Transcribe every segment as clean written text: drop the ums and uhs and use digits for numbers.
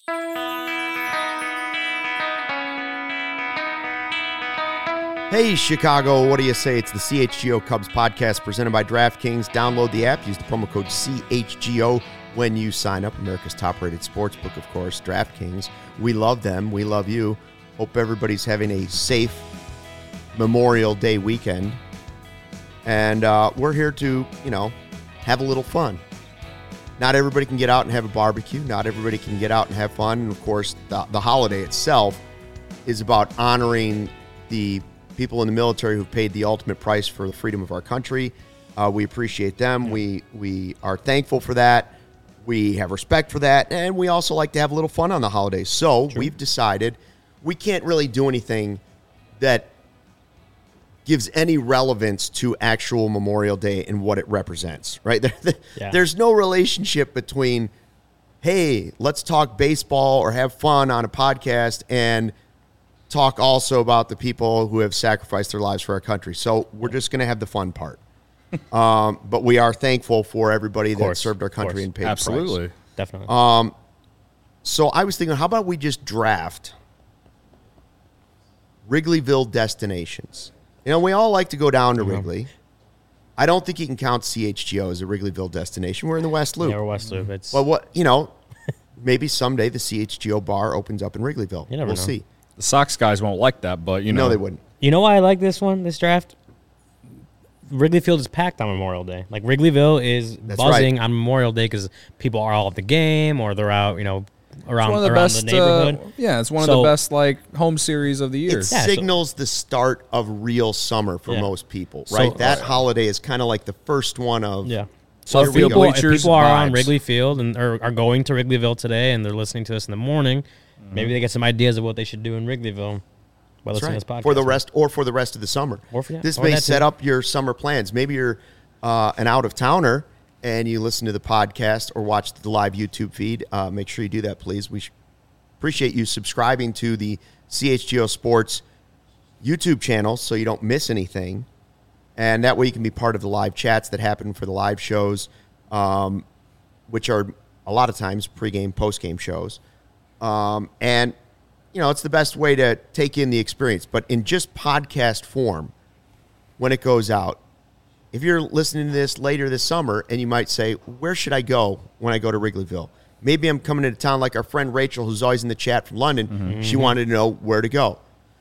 Hey, Chicago, what do you say? It's the CHGO Cubs podcast presented by DraftKings. Download the app. Use the promo code CHGO when you sign up. America's top-rated sportsbook, of course, DraftKings. We love them. We love you. Hope everybody's having a safe Memorial Day weekend. And we're here to, have a little fun. Not everybody can get out and have a barbecue. Not everybody can get out and have fun. And, of course, the holiday itself is about honoring the people in the military who've paid the ultimate price for the freedom of our country. We appreciate them. We are thankful for that. We have respect for that. And we also like to have a little fun on the holidays. So we've decided we can't really do anything that gives any relevance to actual Memorial Day and what it represents, right? There's no relationship between, hey, let's talk baseball or have fun on a podcast and talk also about the people who have sacrificed their lives for our country. So we're just going to have the fun part. But we are thankful for everybody that served our country and paid the price. Absolutely. Definitely. So I was thinking, how about we just draft Wrigleyville destinations? We all like to go down to Wrigley. I don't think you can count CHGO as a Wrigleyville destination. We're in the West Loop. Yeah, we're West Loop. It's Well, maybe someday the CHGO bar opens up in Wrigleyville. You never we'll know. see. The Sox guys won't like that, but, No, they wouldn't. You know why I like this draft? Wrigley Field is packed on Memorial Day. Like, Wrigleyville is buzzing on Memorial Day because people are all at the game or they're out, around the neighborhood. It's one of the best, home series of the year. It signals the start of real summer for most people, right? That holiday is kind of like the first one of... Yeah. So if people are on vibes. Wrigley Field and are going to Wrigleyville today and they're listening to us in the morning, maybe they get some ideas of what they should do in Wrigleyville while listening to this podcast. For the rest of the summer. This may set up your summer plans. Maybe you're an out-of-towner and you listen to the podcast or watch the live YouTube feed. Make sure you do that, please. We appreciate you subscribing to the CHGO Sports YouTube channel so you don't miss anything. And that way you can be part of the live chats that happen for the live shows, which are a lot of times pregame, postgame shows. And, it's the best way to take in the experience. But in just podcast form, when it goes out, if you're listening to this later this summer and you might say, where should I go when I go to Wrigleyville? Maybe I'm coming into town like our friend Rachel, who's always in the chat from London. Mm-hmm. She wanted to know where to go.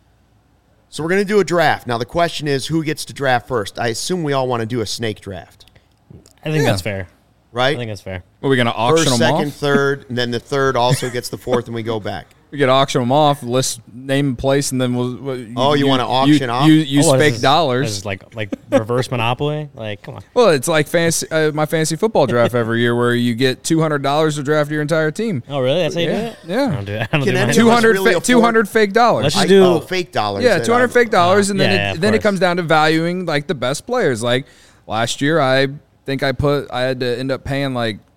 So we're going to do a draft. Now, the question is, who gets to draft first? I assume we all want to do a snake draft. I think that's fair. Right? I think that's fair. Are we going to auction First, them second, off? third, and then the third also gets the fourth, and we go back. We could auction them off, list, name, and place, and then we'll. You want to auction off? Use fake dollars. This is like reverse Monopoly. Like, come on. Well, it's like my fantasy football draft every year, where you get $200 to draft your entire team. Oh, really? That's how you do it? Yeah. I don't do it. I don't Can do any mine. of us 200 fake dollars. Let's just do fake dollars. Yeah, 200 fake dollars, and of then it course. comes down to valuing the best players. Like last year, I think I had to end up paying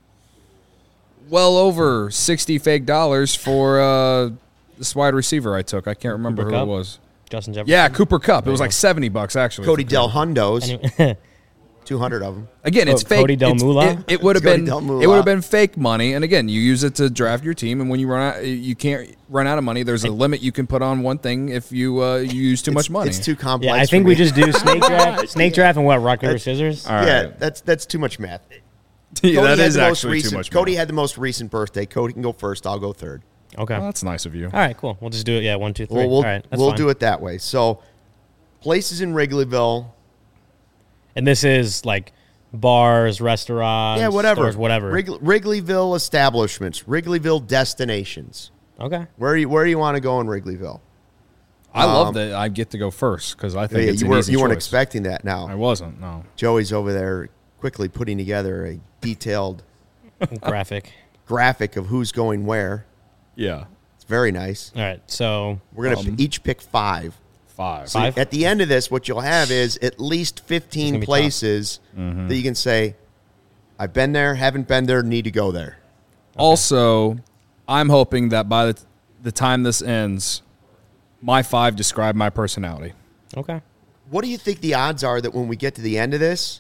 well over 60 fake dollars for this wide receiver I took. I can't remember who it was. Justin Jefferson. Yeah, Cooper Kupp. It was like $70 actually. Cody Del Hundos. 200 of them. Again, it's fake. Cody Del Mula? It would have Cody been. Del Mula. It would have been fake money. And again, you use it to draft your team. And when you run out, you can't run out of money. There's a limit you can put on one thing if you use too much money. It's too complex. Yeah, I think we just do snake draft and rock, paper, scissors. All right. Yeah, that's too much math. Yeah, that Cody is had the most actually recent, too much. Cody had the most recent birthday. Cody can go first. I'll go third. Okay. Well, that's nice of you. All right, cool. We'll just do it. Yeah, 1, 2, 3. We'll All right, that's we'll fine. do it that way. So, places in And this is like bars, restaurants, yeah, whatever, stores, whatever. Wrigleyville establishments, Wrigleyville destinations. Okay. Where do you want to go in Wrigleyville? I love that I get to go first because I think it's you an weren't easy you weren't choice. expecting that. Now I wasn't. No. Joey's over there quickly putting together a detailed graphic of who's going where. Yeah. It's very nice. All right, so We're going to each pick 5. 5. So at the end of this, what you'll have is at least 15 be places that you can say, I've been there, haven't been there, need to go there. Also, I'm hoping that by the time this ends, my 5 describe my personality. okay. What do you think the odds are that when we get to the end of this,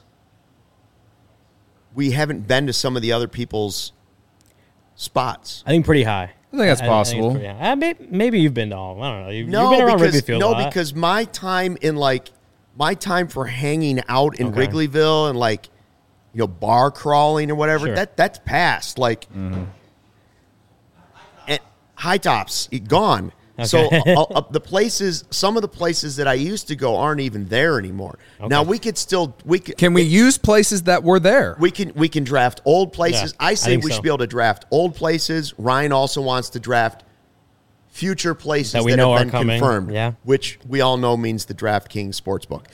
we haven't been to some of the other people's spots? I think pretty high. I think that's possible. Maybe you've been to all. I don't know. You've been around Wrigley Field a lot. Because my time for hanging out in Wrigleyville and like, bar crawling or whatever, that's past. Like, and High Tops, gone. Okay. So some of the places that I used to go aren't even there anymore. Okay. Now Can we use places that were there? We can draft old places. Yeah, I say we should be able to draft old places. Ryan also wants to draft future places that have been confirmed, which we all know means the DraftKings Sportsbook.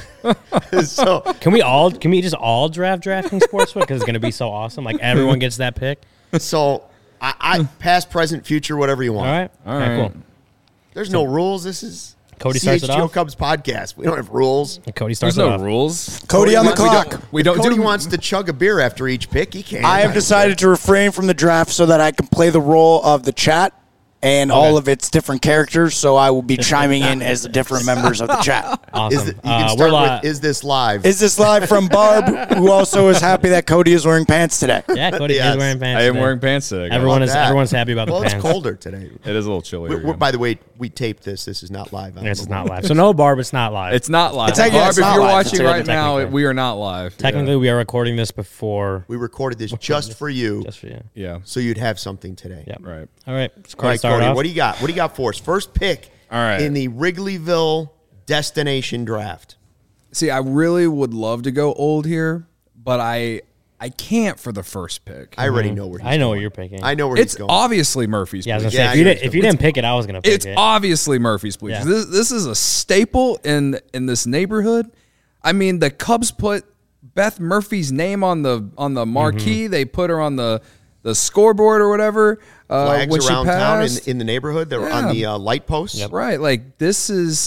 So can we just all draft DraftKings Sportsbook because it's going to be so awesome? Like everyone gets that pick. So I past, present, future, whatever you want. All right, cool. There's no rules. This is Cody starts it off. Cubs podcast. We don't have rules. And Cody starts There's it no off. rules. Cody on the clock. Cody wants to chug a beer after each pick. He can. I have decided to refrain from the draft so that I can play the role of the chat and all of its different characters, so I will be chiming in as the different members of the chat. Awesome. You can start with, is this live? Is this live from Barb, who also is happy that Cody is wearing pants today? Yeah, Cody is wearing pants I am wearing pants today. Everyone's happy about the pants. It's colder today. It is a little chilly. By the way, we taped this. This is not live. This is not live. So no, Barb, it's not live. It's not live. Barb, if you're watching right now, we are not live. Technically, we are recording this before. We recorded this just for you. Just for you. Yeah. So you'd have something today. Yep. Right. All right. All right, Cody, what do you got? What do you got for us? First pick in the Wrigleyville destination draft. See, I really would love to go old here, but I can't for the first pick. I already know where he's going. I know what you're picking. I know where he's going. It's obviously Murphy's Bleachers. Bleachers. Yeah, I was going to say, if you didn't pick it, I was going to pick it. It's obviously Murphy's Bleachers. Yeah. This is a staple in this neighborhood. I mean, the Cubs put Beth Murphy's name on the marquee. They put her on the scoreboard or whatever. Flags when around she passed. town in the neighborhood. They were on the light posts. Yep. Right. Like this is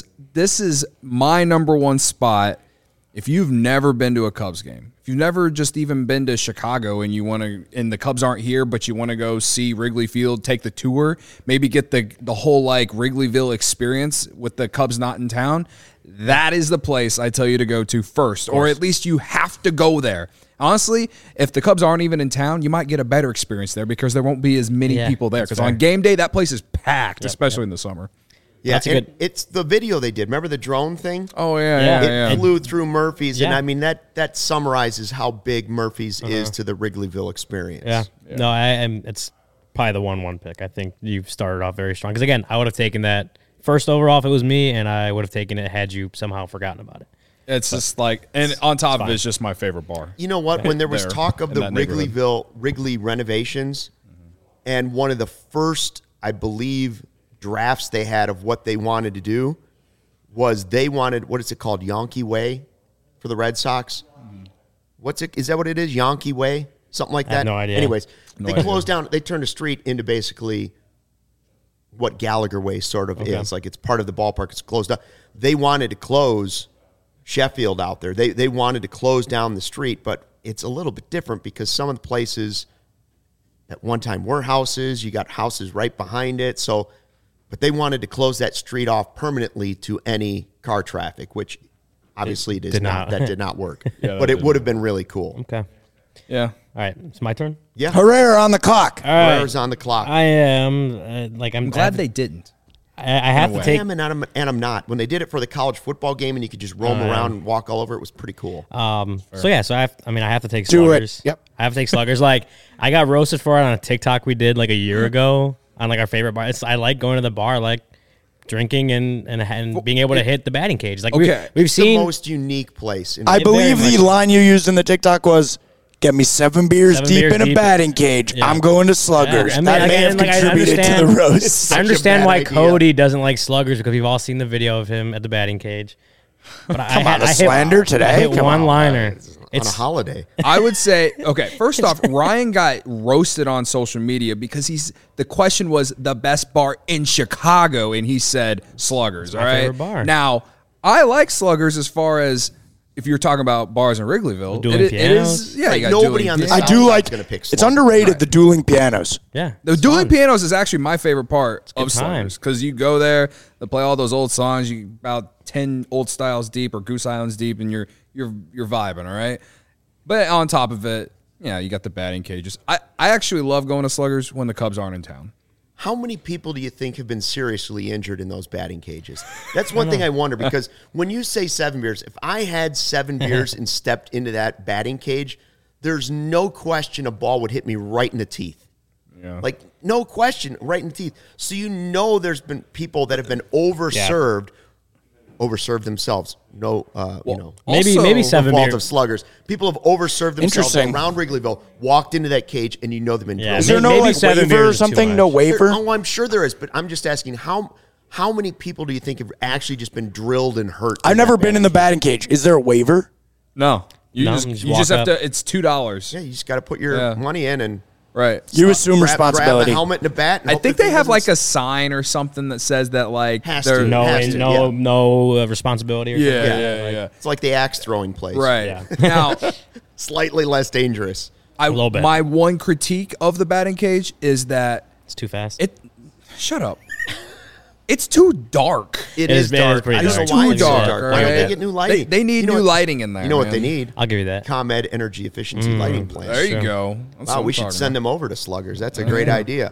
my number one spot. If you've never been to a Cubs game, if you've never just even been to Chicago and and the Cubs aren't here, but you want to go see Wrigley Field, take the tour, maybe get the whole like Wrigleyville experience with the Cubs not in town, that is the place I tell you to go to first, or at least you have to go there. Honestly, if the Cubs aren't even in town, you might get a better experience there because there won't be as many people there. Because on game day, that place is packed, especially in the summer. Yeah, it's the video they did. Remember the drone thing? Oh, yeah. It flew through Murphy's, and I mean, that summarizes how big Murphy's is to the Wrigleyville experience. Yeah. No, it's probably the 1-1 pick. I think you've started off very strong. Because, again, I would have taken that first overall if it was me, and I would have taken it had you somehow forgotten about it. It's just like, and on top of it, it's just my favorite bar. You know what? When there was talk of the Wrigley renovations, and one of the first, I believe, drafts they had of what they wanted to do was they wanted, what is it called, Yankee Way for the Red Sox? Is that what it is, Yankee Way? Something like that? I have no idea. Anyways, they closed down, they turned a street into basically what Gallagher Way sort of is. Like it's part of the ballpark, it's closed up. They wanted to close Sheffield out there. They wanted to close down the street, but it's a little bit different because some of the places at one time were houses. You got houses right behind it. So, but they wanted to close that street off permanently to any car traffic, which obviously that did not work. But it would have been really cool. Okay. Yeah. All right. It's my turn? Yeah. Herrera on the clock. All right. Herrera's on the clock. I am. I'm glad they didn't. I have to take. I am and I'm not. When they did it for the college football game and you could just roam around and walk all over, it was pretty cool. So I have to take Sluggers. Do it. Yep. I have to take Sluggers. Like I got roasted for it on a TikTok we did like a year ago on like our favorite bar. I like going to the bar, like drinking and being able to hit the batting cage. Like we've seen the most unique place. I believe the line you used in the TikTok was, "Get me 7 beers deep in a batting cage. Yeah. I'm going to Sluggers." Yeah. That may have contributed to the roast. I understand why Cody doesn't like Sluggers because we've all seen the video of him at the batting cage. But I slander today. I hit one-liner. It's on a holiday. I would say, okay, first off, Ryan got roasted on social media because the question was the best bar in Chicago, and he said Sluggers, all right? Bar. Now, I like Sluggers as far as if you're talking about bars in Wrigleyville. It is, yeah, you got nobody on the I do like, it's underrated, the dueling pianos. Yeah. The dueling pianos is actually my favorite part of Sluggers because you go there, they play all those old songs, you about 10 old styles deep or Goose Islands deep, and you're vibing, all right? But on top of it, you got the batting cages. I actually love going to Sluggers when the Cubs aren't in town. how many people do you think have been seriously injured in those batting cages? That's one thing I wonder, because when you say 7 beers, if I had 7 beers and stepped into that batting cage, there's no question a ball would hit me right in the teeth. Yeah. Like, no question, right in the teeth. So there's been people that have been overserved themselves. Maybe 7 fault beers. of sluggers. People have overserved themselves Interesting. around Wrigleyville, walked into that cage, and they've been drilled. Is there no Maybe like 7 waiver beers or is too something? much. No waiver? Oh, I'm sure there is, but I'm just asking how many people do you think have actually just been drilled and hurt? I've never been in the batting cage. Is there a waiver? No. You No, just just you walk just have up. to. It's $2. Yeah, you just got to put your money in and Right. You assume grab responsibility. a helmet and a bat. And I hope think the they thing have like doesn't a sign or something that says that like Has they're to. No, Has to, no responsibility. Or Yeah, something. yeah. It's like the axe throwing place. Right. Yeah. Now, Slightly less dangerous. little bit. my one critique of the batting cage is that It's too fast. shut up. It's too dark. It is is dark. pretty I don't dark. know why Too it's so dark, dark. all Why don't right? they get new lighting? They need You know new what- lighting in there. You know what man. they need? I'll give you that. ComEd energy efficiency lighting plans. There you Sure. go. That's Wow, what we I'm should talking send about. them over to Sluggers. That's a great idea.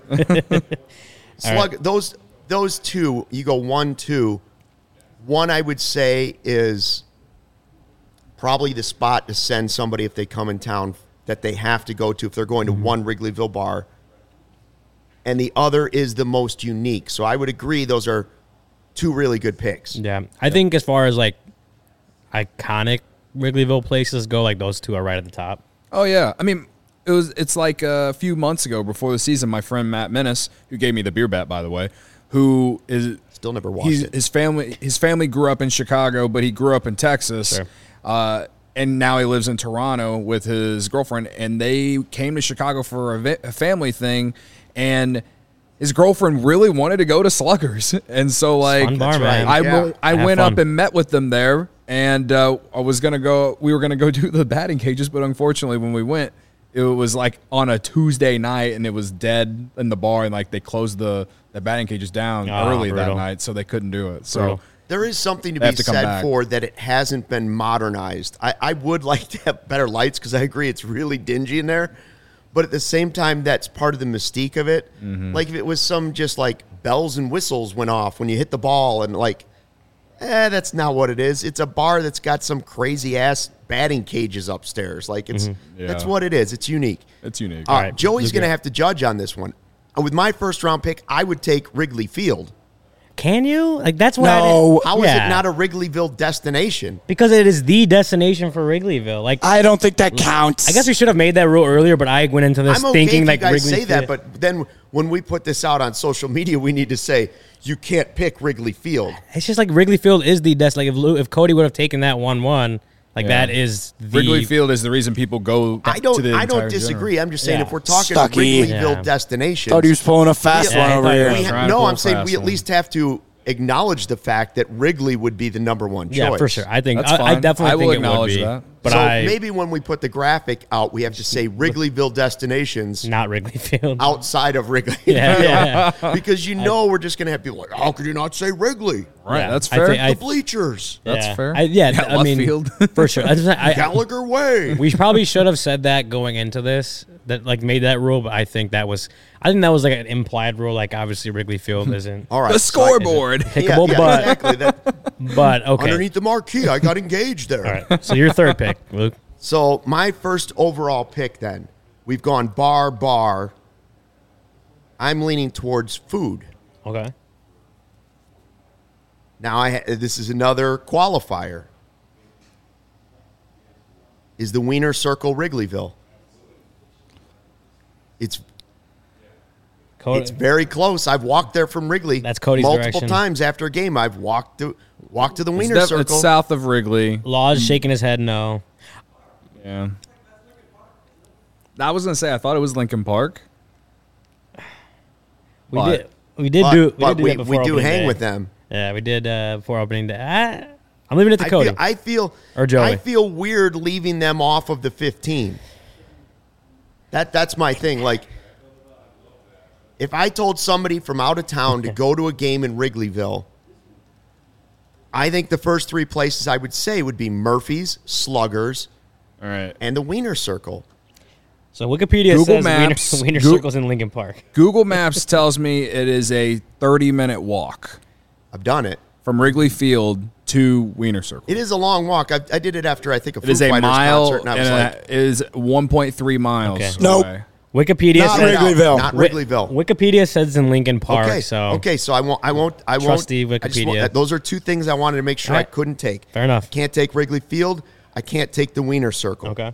Slug, those two, you go 1, 2. One I would say is probably the spot to send somebody if they come in town that they have to go to if they're going to one Wrigleyville bar. And the other is the most unique. So I would agree those are 2 really good picks. Yeah, I think as far as like iconic Wrigleyville places go, like those 2 are right at the top. Oh yeah. I mean, it's like a few months ago before the season, my friend Matt Menace, who gave me the beer bat, by the way, who is Still never watched it. his family grew up in Chicago, but he grew up in Texas. Sure. And now he lives in Toronto with his girlfriend, and they came to Chicago for a family thing, and his girlfriend really wanted to go to Sluggers, and so like fun bar, man. I Have went fun. up and met with them there, and we were gonna go do the batting cages, but unfortunately when we went, it was like on a Tuesday night, and it was dead in the bar, and like they closed the batting cages down early that brutal. night, so they couldn't do it. So. Brutal. There is something to They be have to come said back. for that it hasn't been modernized. I would like to have better lights because I agree it's really dingy in there. But at the same time, that's part of the mystique of it. Like if it was some just like bells and whistles went off when you hit the ball and like, that's not what it is. It's a bar that's got some crazy ass batting cages upstairs. Like it's that's Yeah. what it is. It's unique. It's unique. All right, right, Joey's Luke, going to yeah. have to judge on this one. With my first round pick, I would take Wrigley Field. Can you? Like that's what. No. How is Yeah. it not a Wrigleyville destination? Because it is the destination for Wrigleyville. Like I don't think that counts. I guess we should have made that rule earlier, but I went into this I'm okay thinking if like you guys Wrigley say that, Field- but then when we put this out on social media, we need to say you can't pick Wrigley Field. it's just like Wrigley Field is the like if Cody would have taken that 1-1, like Yeah. that is the Wrigley Field is the reason people go. I to the don't entire disagree. general. I'm just saying Yeah. if we're talking Stucky. Wrigleyville Yeah. destination, thought he was pulling a fast Yeah, one I over thought he here. was. Trying to no, pull I'm a saying fast we at one. least have to acknowledge the fact that Wrigley would be the number one choice. yeah for sure. I think That's I fine. definitely I will think it would acknowledge be. that. But so I maybe when we put the graphic out, we have to say Wrigleyville destinations not Wrigley Field. outside of Wrigley. Yeah, yeah. Because we're just going to have people like, how could you not say Wrigley? Right, Yeah. that's I fair. think- The bleachers. That's Yeah. fair. Yeah, Yeah, I left mean, field. for sure. Gallagher Way. We probably should have said that going into this, that like made that rule, but I think that was like an implied rule. Like obviously Wrigley Field isn't All right. the so I- scoreboard. pickable, Yeah, but exactly. but okay. Underneath the marquee, I got engaged there. All right. So your third pick, Luke. So my first overall pick then, we've gone bar. I'm leaning towards food. Okay. Now, this is another qualifier. Is the Wiener Circle Wrigleyville? It's very close. I've walked there from Wrigley. That's Cody's multiple direction. times after a game. I've walked to the Wiener It's Circle. south of Wrigley. Law's shaking his head no. Yeah. I was gonna say I thought it was Lincoln Park. We But- did but do we that before do opening hang day. with them. Yeah, we did before opening day. I'm leaving it to Cody. I feel Or Joey. I feel weird leaving them off of the 15. That's my thing. Like, if I told somebody from out of town to go to a game in Wrigleyville, I think the first 3 places I would say would be Murphy's, Sluggers, All right. and the Wiener Circle. So Wikipedia Google says Maps, Wiener Circle's in Lincoln Park. Google Maps tells me it is a 30-minute walk I've done it. from Wrigley Field to Wiener Circle. It is a long walk. I did it after, I think, a Foo It is a Fighters mile, concert, and I was and like, it is 1.3 miles Okay. Nope. away. Wikipedia Not says Wrigleyville. Not Wrigleyville. Wikipedia says it's in Lincoln Park. Okay, So okay, so I won't. Trusty I just Wikipedia. those are two things I wanted to make sure I Alright. couldn't take. Fair enough. Can't take Wrigley Field. I can't take the Wiener Circle. Okay.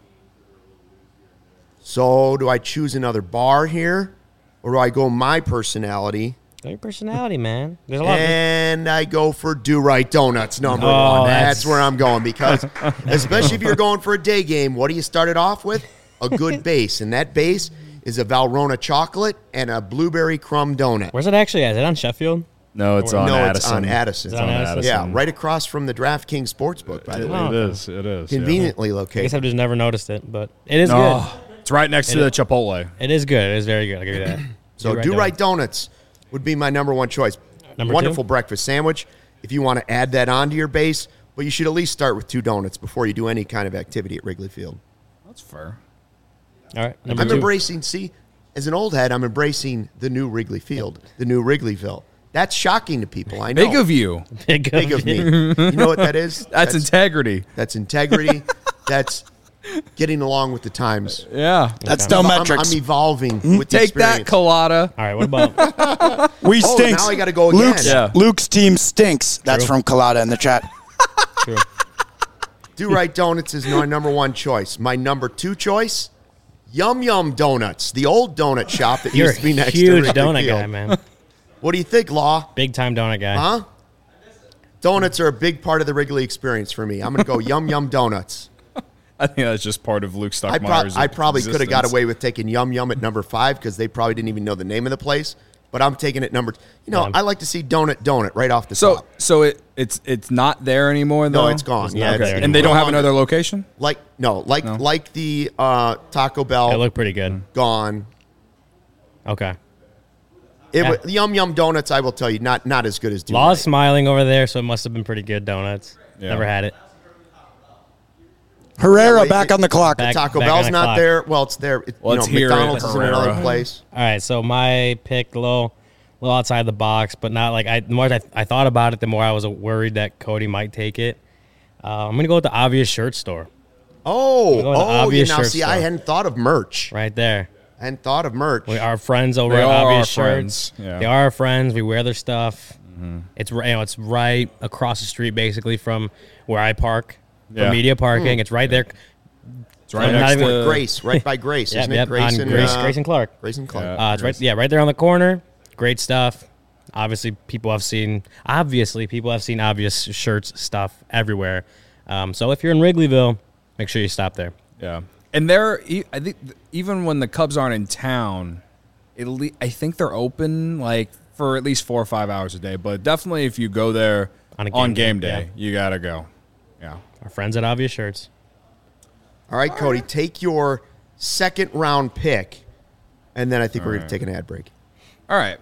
So do I choose another bar here, or do I go my personality Got your personality, man. There's a lot. and I go for Do Right Donuts number Oh, one? that's- That's where I'm going because, especially if you're going for a day game, what do you start it off with? A good base, and that base is a Valrhona chocolate and a blueberry crumb donut. Where's it actually at? Is it on Sheffield? No, it's on no, Addison. it's on Addison. It's on Addison. Yeah, right across from the DraftKings Sportsbook, by the way. It is. It is. Conveniently I guess located. I've just never noticed it, but it is Oh, it's right next to the Chipotle. good. It is good. It is very good. I'll give you that. So Do Right Donuts would be my number one choice. Number Wonderful two? breakfast sandwich if you want to add that onto your base, but you should at least start with 2 donuts before you do any kind of activity at Wrigley Field. That's fair. All right. Number I'm two. embracing, as an old head, I'm embracing the new Wrigley Field, the new Wrigleyville. That's shocking to people, I know. Big of you. Big Big of me. You know what that is? That's integrity. That's integrity. That's getting along with the times. Yeah. That's Okay. still I'm metrics. evolving with the Take that, experience. Colada. All right. What about? We Oh, stinks. now I gotta go again. Luke's, Yeah. Luke's team stinks. That's True. from Colada in the chat. True. Do Right Donuts is my number one choice. My number 2 choice, Yum Yum Donuts, the old donut shop that You're used to be a next to huge Wrigley donut Field. guy, man. What do you think, Law? Big time donut guy. Huh? Donuts are a big part of the Wrigley experience for me. I'm going to go Yum Yum Donuts. I think that's just part of Luke I Stockmeyer's probably could have got existence. away with taking Yum Yum at number 5 because they probably didn't even know the name of the place. But I'm taking it number. Yeah. I like to see donut right off the So top. it's not there anymore though. No, it's gone. It's Yeah, not there And they don't have anymore. another location. Like the Taco It Bell looked pretty good. gone. Okay. The Yum Yum Donuts, I will tell you, not as good as Do Law's Right. smiling over there, so it must have been pretty good donuts. Yeah. Never had it. Herrera wait, back on the clock. Back- Taco on Bell's the not clock. there. Well, it's there. Well, it's here at McDonald's is in another Herrera. place. All right, so my pick, a little outside the box, but not like the more I thought about it, the more I was worried that Cody might take it. I'm gonna go with the Obvious Shirt Store Oh, We're going to yeah. Obvious Now, Shirt see, Store. I hadn't thought of merch. right there. I hadn't thought of merch. Our friends over They at are Obvious our Shirts. friends, yeah. They are our friends. We wear their stuff. It's it's right across the street, basically from where I park for Yeah. media parking. It's right there. It's right I'm not next even- to Grace, right by Grace, Yep, isn't yep, it? Grace on and Grace and Clark. Grace and Clark. Yeah. It's right there on the corner. Great stuff. Obviously, people have seen Obvious Shirts stuff everywhere. So if you're in Wrigleyville, make sure you stop there. Yeah, and I think even when the Cubs aren't in town, I think they're open like for at least 4 or 5 hours a day. But definitely, if you go there On a on game game day, day, you gotta go. Yeah. Our friends at Obvious Shirts. All right, Cody, take your second round pick, and then I think we're going to take an ad break. All right.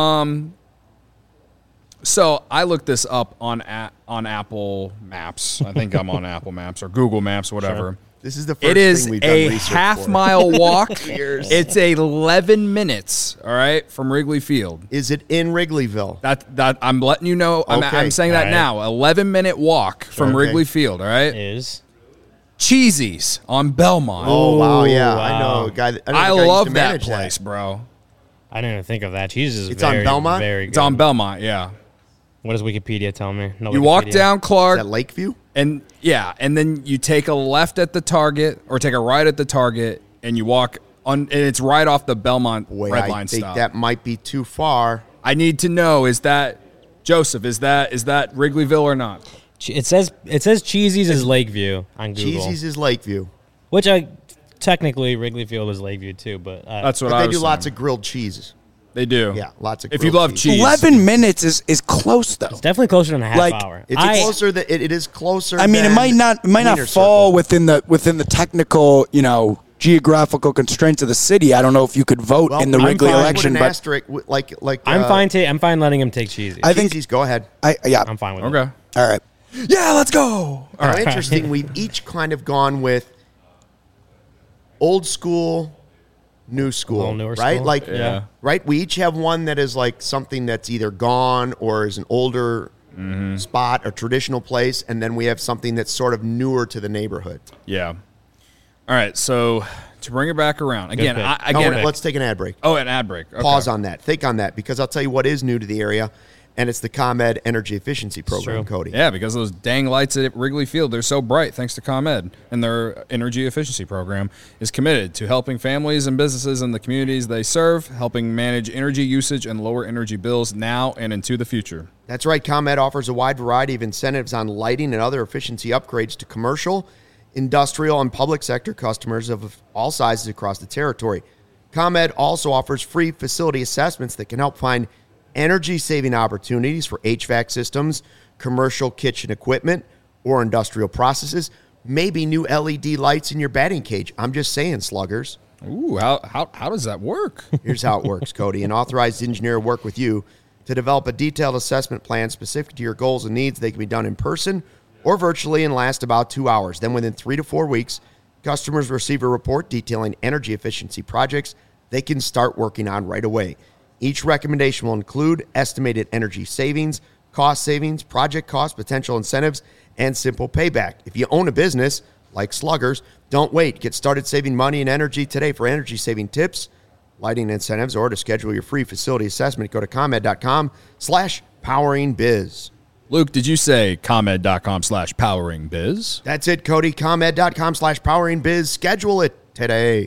So I looked this up on Apple Maps. I think I'm on Apple Maps or Google Maps, whatever. This is the first It is thing we've done a research half for. mile walk. Years. It's 11 minutes. All right, from Wrigley Field. Is it in Wrigleyville? That I'm letting you know. I'm Okay. saying that All right. now. 11-minute walk from Okay. Wrigley Field. All right. Is Cheesy's on Belmont. Oh, wow, yeah. I wow. know a guy. I know I a guy used love to that manage place, bro. I didn't even think of that. Cheese is It's on very, Belmont? very good. It's on Belmont. Yeah. What does Wikipedia tell me? No You walk Wikipedia. down Is Clark. that Lakeview? And and then you take a left at the Target or take a right at the Target, and you walk on, and it's right off the Belmont Boy, Red I Line think stop. that might be too far. I need to know: is that Joseph? Is that Wrigleyville or not? It says Cheesy's is Lakeview on Google. Cheesy's is Lakeview. Which technically Wrigley Field is Lakeview too, but That's what But I they was do lots saying. of grilled cheeses. They do. Yeah, lots of If you grilled love cheese. cheese, 11 minutes is close though. it's definitely closer than a half Like, hour. It's I- closer. It is closer. I mean, it than might not Wiener fall Circle. within the technical, geographical constraints of the city. I don't know if you could vote Well, in the I'm Wrigley fine. election, Put an but asterisk, I'm fine letting him take Cheesy's. I think Cheesy's, go ahead. I'm fine with it. okay. all right. Yeah, let's go. Interesting. We've each kind of gone with old school new school, newer right? school. Like, Yeah. right? We each have one that is like something that's either gone or is an older spot, a traditional place, and then we have something that's sort of newer to the neighborhood. Yeah. All right. So to bring it back around again, pick. Let's take an ad break. an ad break. Okay. Pause on that. Think on that, because I'll tell you what is new to the area, and it's the ComEd Energy Efficiency Program, true. Cody. Yeah, because those dang lights at Wrigley Field, they're so bright thanks to ComEd. And their energy efficiency program is committed to helping families and businesses in the communities they serve, helping manage energy usage and lower energy bills now and into the future. That's right. ComEd offers a wide variety of incentives on lighting and other efficiency upgrades to commercial, industrial, and public sector customers of all sizes across the territory. ComEd also offers free facility assessments that can help find energy-saving opportunities for HVAC systems, commercial kitchen equipment, or industrial processes. Maybe new LED lights in your batting cage. I'm just saying, sluggers. Ooh, how does that work? Here's how it works, Cody. An authorized engineer will work with you to develop a detailed assessment plan specific to your goals and needs. They can be done in person or virtually and last about 2 hours. Then within 3 to 4 weeks, customers receive a report detailing energy efficiency projects they can start working on right away. Each recommendation will include estimated energy savings, cost savings, project costs, potential incentives, and simple payback. If you own a business, like Sluggers, don't wait. Get started saving money and energy today. For energy-saving tips, lighting incentives, or to schedule your free facility assessment, go to ComEd.com/poweringbiz. Luke, did you say ComEd.com/poweringbiz? That's it, Cody. ComEd.com/poweringbiz. Schedule it today.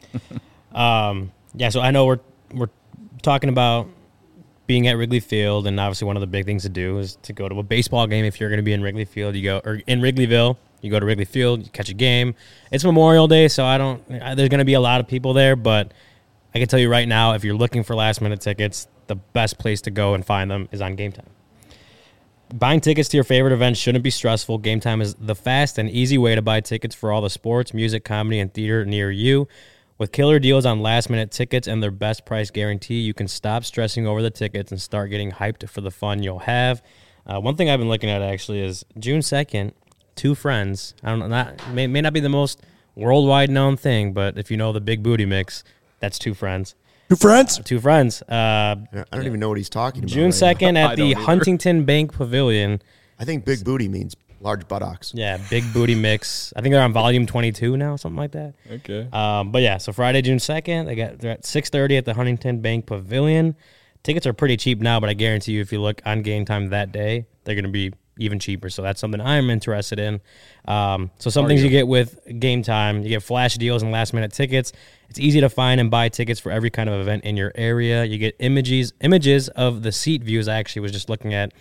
Yeah, so I know we're talking about being at Wrigley Field, and obviously one of the big things to do is to go to a baseball game. If you're going to be in Wrigley Field, you go, or in Wrigleyville, you go to Wrigley Field, you catch a game. It's Memorial Day, so there's going to be a lot of people there, but I can tell you right now, if you're looking for last-minute tickets, the best place to go and find them is on Game Time. Buying tickets to your favorite events shouldn't be stressful. Game Time is the fast and easy way to buy tickets for all the sports, music, comedy, and theater near you. With killer deals on last-minute tickets and their best price guarantee, you can stop stressing over the tickets and start getting hyped for the fun you'll have. One thing I've been looking at actually is June 2nd, two friends. I don't know, may not be the most worldwide known thing, but if you know the Big Booty Mix, that's two friends. Two friends? Two friends. I don't even know what he's talking about. June 2nd at the Huntington Bank Pavilion. I think Big Booty means large buttocks. Yeah, Big Booty Mix. I think they're on volume 22 now, something like that. Okay. But yeah, so Friday, June 2nd, they're at 6:30 at the Huntington Bank Pavilion. Tickets are pretty cheap now, but I guarantee you if you look on Game Time that day, they're going to be even cheaper. So that's something I'm interested in. So some things you get with Game Time, you get flash deals and last-minute tickets. It's easy to find and buy tickets for every kind of event in your area. You get images of the seat views. I actually was just looking at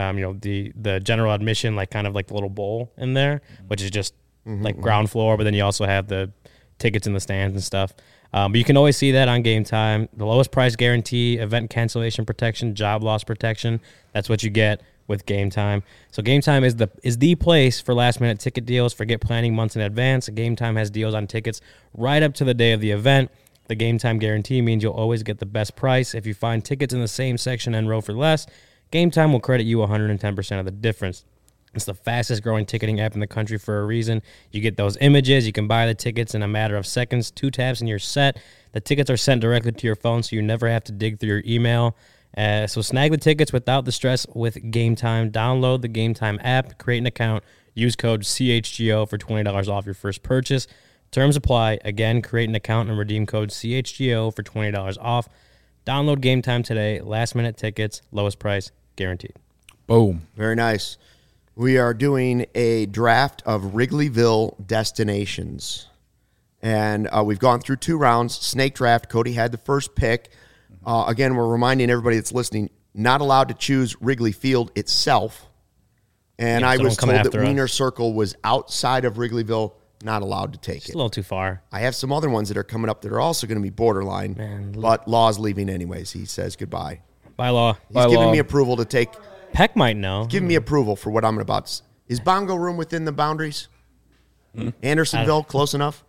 the general admission, like kind of like the little bowl in there, which is just like ground floor, but then you also have the tickets in the stands and stuff. But you can always see that on Game Time. The lowest price guarantee, event cancellation protection, job loss protection. That's what you get with Game Time. So Game Time is the place for last minute ticket deals. Forget planning months in advance. Game Time has deals on tickets right up to the day of the event. The Game Time guarantee means you'll always get the best price. If you find tickets in the same section and row for less, Game Time will credit you 110% of the difference. It's the fastest growing ticketing app in the country for a reason. You get those images. You can buy the tickets in a matter of seconds. 2 taps and you're set. The tickets are sent directly to your phone, so you never have to dig through your email. So snag the tickets without the stress with Game Time. Download the Game Time app, create an account, use code CHGO for $20 off your first purchase. Terms apply. Again, create an account and redeem code CHGO for $20 off. Download Game Time today. Last minute tickets, lowest price, guaranteed. Boom. Very nice. We are doing a draft of Wrigleyville destinations. And we've gone through 2 rounds. Snake draft. Cody had the first pick. Again, we're reminding everybody that's listening, not allowed to choose Wrigley Field itself. And I was told that Wiener Circle was outside of Wrigleyville, not allowed to take it. It's a little too far. I have some other ones that are coming up that are also going to be borderline, but Law's leaving anyways. He says goodbye. Bye, Law. He's giving me approval to take. Peck might know. Give me approval for what I'm about to. Is Bongo Room within the boundaries? Andersonville, close enough?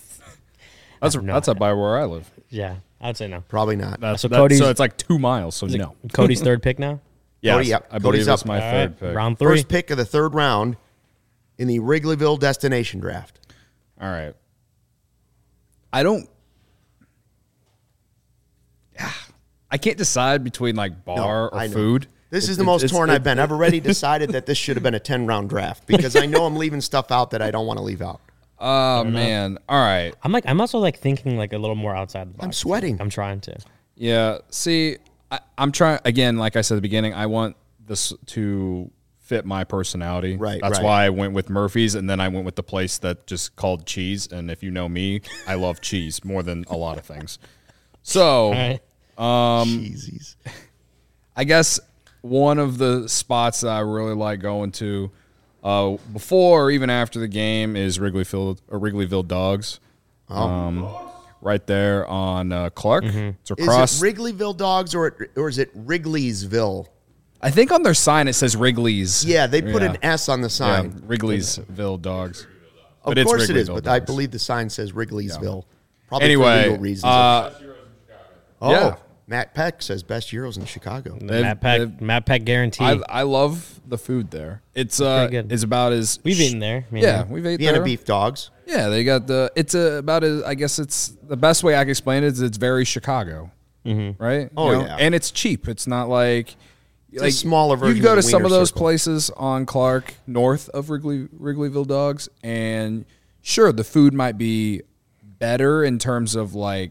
That's up by where I live. Yeah, I'd say no. Probably not. So it's like 2 miles, so no. Cody's third pick now? Yes, Cody, yep. I believe Cody's that's up. my third pick. Round 3. First pick of the 3rd round in the Wrigleyville destination draft. All right. I don't I can't decide between like bar or food. This is the most torn I've been. I've already decided that this should have been a 10-round draft because I know I'm leaving stuff out that I don't want to leave out. Oh man! All right. I'm also like thinking like a little more outside the box. I'm sweating. I'm trying to. Yeah. See, I'm trying again. Like I said at the beginning, I want this to fit my personality. Right. That's why I went with Murphy's, and then I went with the place that just called Cheese. And if you know me, I love cheese more than a lot of things. So, Cheesies. I guess one of the spots that I really like going to before or even after the game is Wrigleyville Dogs. Right there on Clark. It's across. Is it Wrigleyville Dogs or is it Wrigley'sville? I think on their sign it says Wrigley's. Yeah, they put an S on the sign. Yeah, Wrigley'sville Dogs. Of course it is, but I believe the sign says Wrigley'sville. Probably Anyway, for legal reasons. yeah. Matt Peck says best Euros in Chicago. Matt Peck guarantee. I love the food there. It's about as we've eaten there. we've ate Vienna there. beef dogs. Yeah, they got about as I guess it's the best way I can explain it is it's very Chicago, right? Oh, you know? yeah. And it's cheap. It's not like a smaller version. You go of to the some of Wiener those Circle. places on Clark, north of Wrigleyville Dogs, and sure, the food might be better in terms of like,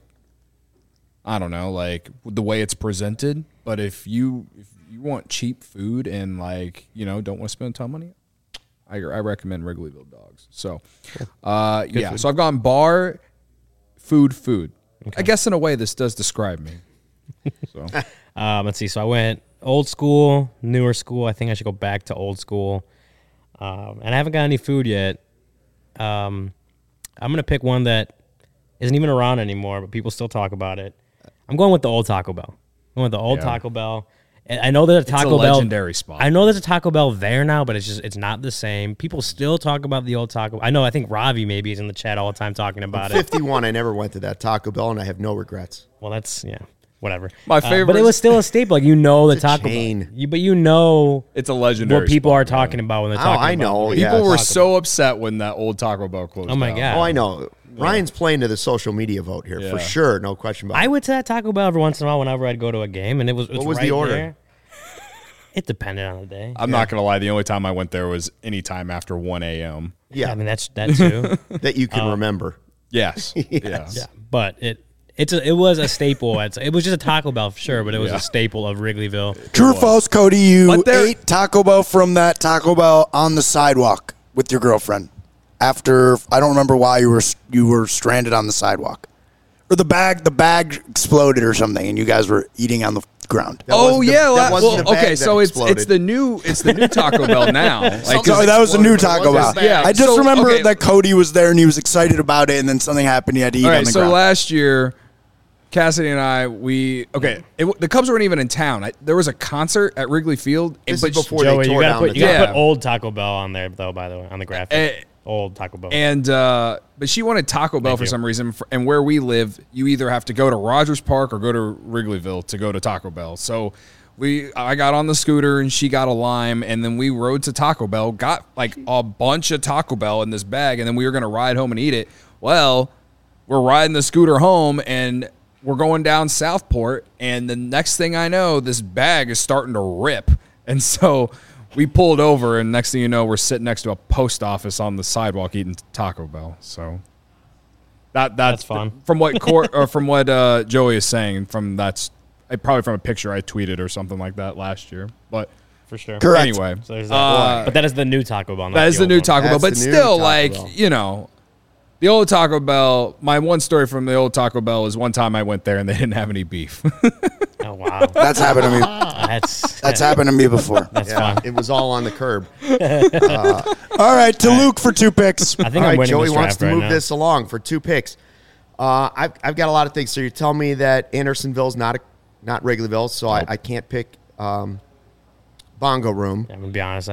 I don't know, like the way it's presented. But if you want cheap food and like don't want to spend a ton of money, I recommend Wrigleyville Dogs. So, yeah. food. So I've gone bar, food. Okay. I guess in a way this does describe me. So Let's see. So I went old school, newer school. I think I should go back to old school. And I haven't got any food yet. I'm gonna pick one that isn't even around anymore, but people still talk about it. I'm going with the old Taco Bell. I'm going with the old Taco Bell. And I know there's a Taco Bell legendary spot. I know there's a Taco Bell there now, but it's not the same. People still talk about the old Taco. I think Ravi maybe is in the chat all the time talking about it. 51. I never went to that Taco Bell, and I have no regrets. Well, that's whatever. My favorite, but it was still a staple. Like the Taco chain. Bell. But you know, it's a legendary. What people spot, are talking about when they're talking. I know. About Yeah. People were Taco so upset when that old Taco Bell closed. Oh my down. god. Oh, I know. Ryan's playing to the social media vote here for sure. No question about it. I went to that Taco Bell every once in a while whenever I'd go to a game, and it was What was right the order? there. It depended on the day. I'm not gonna lie. The only time I went there was any time after 1 a.m. Yeah, I mean that's that too. that you can remember. Yes. Yes. Yeah, but it was a staple. It was just a Taco Bell for sure, but it was a staple of Wrigleyville. True or false, Cody? You ate Taco Bell from that Taco Bell on the sidewalk with your girlfriend after I don't remember why you were stranded on the sidewalk, or the bag exploded or something, and you guys were eating on the ground. Okay, so it's the new Taco Bell now. Like, Sorry, that was the new Taco Bell. Yeah, I just remember that Cody was there and he was excited about it, and then something happened. He had to eat on the ground. So last year, Cassidy and I, the Cubs weren't even in town. There was a concert at Wrigley Field. This is before Joey, they tore down the you gotta top. put old Taco Bell on there though. By the way, on the graphic, old Taco Bell. And but she wanted Taco Bell for some reason. And where we live, you either have to go to Rogers Park or go to Wrigleyville to go to Taco Bell. So I got on the scooter and she got a lime, and then we rode to Taco Bell, got like a bunch of Taco Bell in this bag, and then we were gonna ride home and eat it. Well, we're riding the scooter home and we're going down Southport, and the next thing I know, this bag is starting to rip. And so we pulled over, and next thing you know, we're sitting next to a post office on the sidewalk eating Taco Bell. So that's fun. From what Joey is saying, probably from a picture I tweeted or something like that last year. But for sure. Correct. Anyway, So there's that. But that is the new Taco Bell. that is the new Taco Bell. But That's the new still, Taco Bell. The old Taco Bell, my one story from the old Taco Bell is one time I went there and they didn't have any beef. Oh wow, That's happened to me. That's happened to me before. That's fun. It was all on the curb. All right, to Luke for 2 picks. I think All I'm right, winning Joey this wants draft to right move now. this along for 2 picks. I've got a lot of things. So you're telling me that Andersonville's not Wrigleyville, so I can't pick Bongo Room. I'm gonna be honest.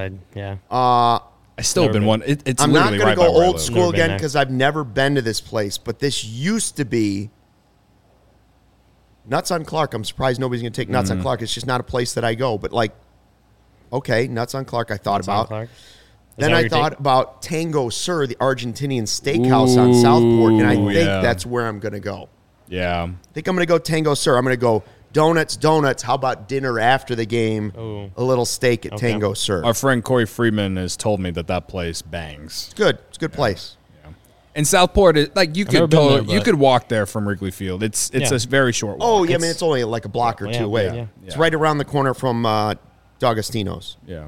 I still been one. It's I'm not literally going right to by go where I old live. school Never been again there. because I've never been to this place, but this used to be Nuts on Clark. I'm surprised nobody's going to take Nuts on Clark. It's just not a place that I go. But okay, Nuts on Clark I thought about. Clark? Then I thought about Tango Sur, the Argentinian steakhouse on Southport, and I think yeah. that's where I'm going to go. Yeah. I think I'm going to go Tango Sur. I'm going to go Donuts. How about dinner after the game? Ooh. A little steak at Tango Sir. Our friend Corey Freeman has told me that place bangs. It's good. It's a good place. And Southport, you could walk there from Wrigley Field. It's a very short walk. Oh, yeah, I mean, it's only like a block or two away. Yeah. It's right around the corner from D'Agostino's. Yeah.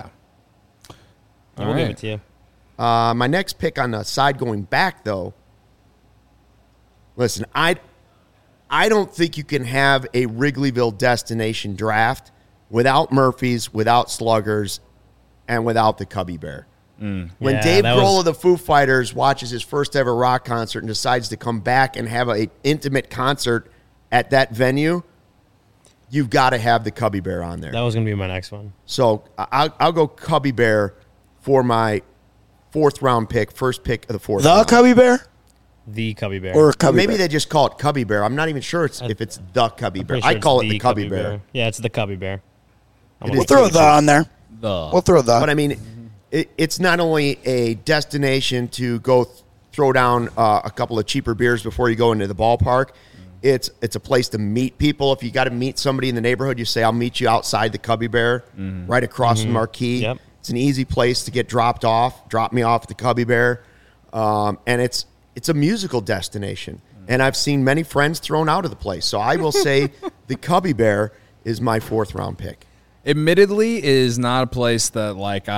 We'll give it to you. My next pick on the side going back, though, listen, I don't think you can have a Wrigleyville destination draft without Murphy's, without Sluggers, and without the Cubby Bear. When Dave Grohl of the Foo Fighters watches his first ever rock concert and decides to come back and have an intimate concert at that venue, you've got to have the Cubby Bear on there. That was going to be my next one. So I'll go Cubby Bear for my first pick of the fourth round. Cubby Bear? The Cubby Bear. Or Cubby Maybe Bear? they just call it Cubby Bear. I'm not even sure if it's the Cubby Bear. I call it the Cubby Bear. Yeah, it's the Cubby Bear. We'll throw the on there. We'll throw the. But I mean, it's not only a destination to go throw down a couple of cheaper beers before you go into the ballpark. It's a place to meet people. If you got to meet somebody in the neighborhood, you say, I'll meet you outside the Cubby Bear, right across from Marquee. Yep. It's an easy place to get dropped off. Drop me off at the Cubby Bear. And it's a musical destination. And I've seen many friends thrown out of the place. So I will say the Cubby Bear is my fourth round pick. Admittedly, is not a place that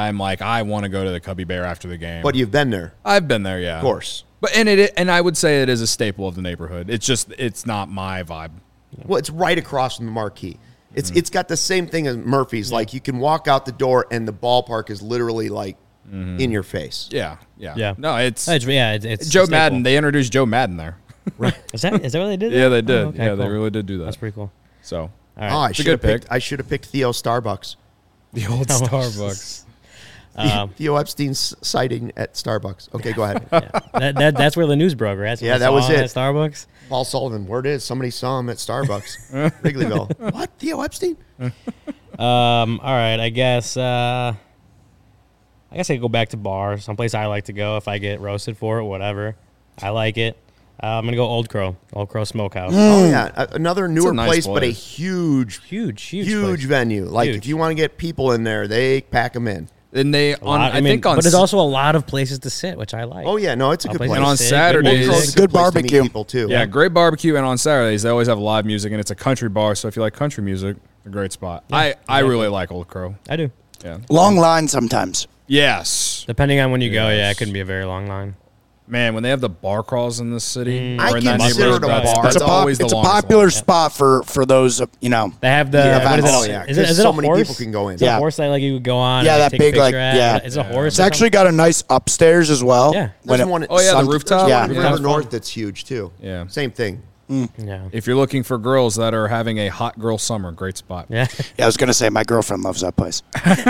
I want to go to the Cubby Bear after the game. But you've been there. I've been there, yeah. Of course. But and I would say it is a staple of the neighborhood. It's not my vibe. Well, it's right across from the Marquee. It's got the same thing as Murphy's. Like you can walk out the door and the ballpark is literally like in your face. Yeah. No, it's Joe Madden. They introduced Joe Madden there. Right. Is that what they did? Yeah, they did. Oh, okay, yeah, cool. they really did do that. That's pretty cool. So, all right. I should have picked Theo Starbucks. The old Starbucks. Theo Epstein's sighting at Starbucks. Okay, go ahead. That's where the news broke, right? Yeah, that was it. At Starbucks. Paul Sullivan, word is somebody saw him at Starbucks, Wrigleyville. What? Theo Epstein? All right, I guess I could go back to bar, someplace I like to go if I get roasted for it, whatever. I like it. I'm gonna go Old Crow Smokehouse. Oh yeah, another newer nice place, but a huge place. venue. Like Huge. if you want to get people in there, they pack them in. And but there's also a lot of places to sit, which I like. Oh yeah, no, it's a good place. And on sit, Saturdays, good Crow's a good place to meet barbecue. people too. yeah, great barbecue. And on Saturdays, they always have live music, and it's a country bar. So if you like country music, a great spot. I really like Old Crow. I do. Yeah. Long line sometimes. Yes. Depending on when you go, Yes. it couldn't be a very long line. Man, when they have the bar crawls in this city, I or in that consider neighborhood, it a bar. that's always the It's a longest popular one. spot for those, They have the Yeah, what is it? oh, yeah, Is 'cause it so a many horse? people can go in. Is it Yeah. a horse that like you would go on? Yeah, and that take a big, like, picture at? yeah. It's a horse. It's actually got a nice upstairs as well. Yeah. There's one. Oh, yeah, the rooftop? There's one Yeah. in River Yeah. North that's huge too. Yeah. Same thing. Yeah. If you're looking for girls that are having a hot girl summer, great spot. Yeah. Yeah, I was gonna say my girlfriend loves that place.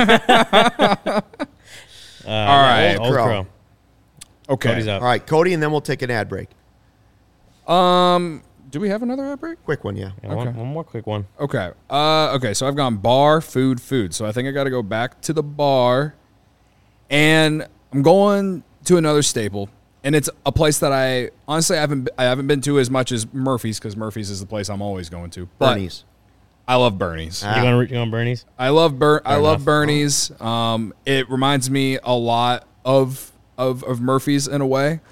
All right. Old Crow. Okay. Cody's up. All right, Cody, and then we'll take an ad break. Do we have another ad break? Quick one, yeah. Yeah, one more quick one. Okay. Okay. So I've gone bar, food. So I think I got to go back to the bar, and I'm going to another staple, and it's a place that I honestly haven't been to as much as Murphy's, because Murphy's is the place I'm always going to. But Bernie's. I love Bernie's. You going Bernie's? I love enough. Bernie's. It reminds me a lot of Murphy's in a way.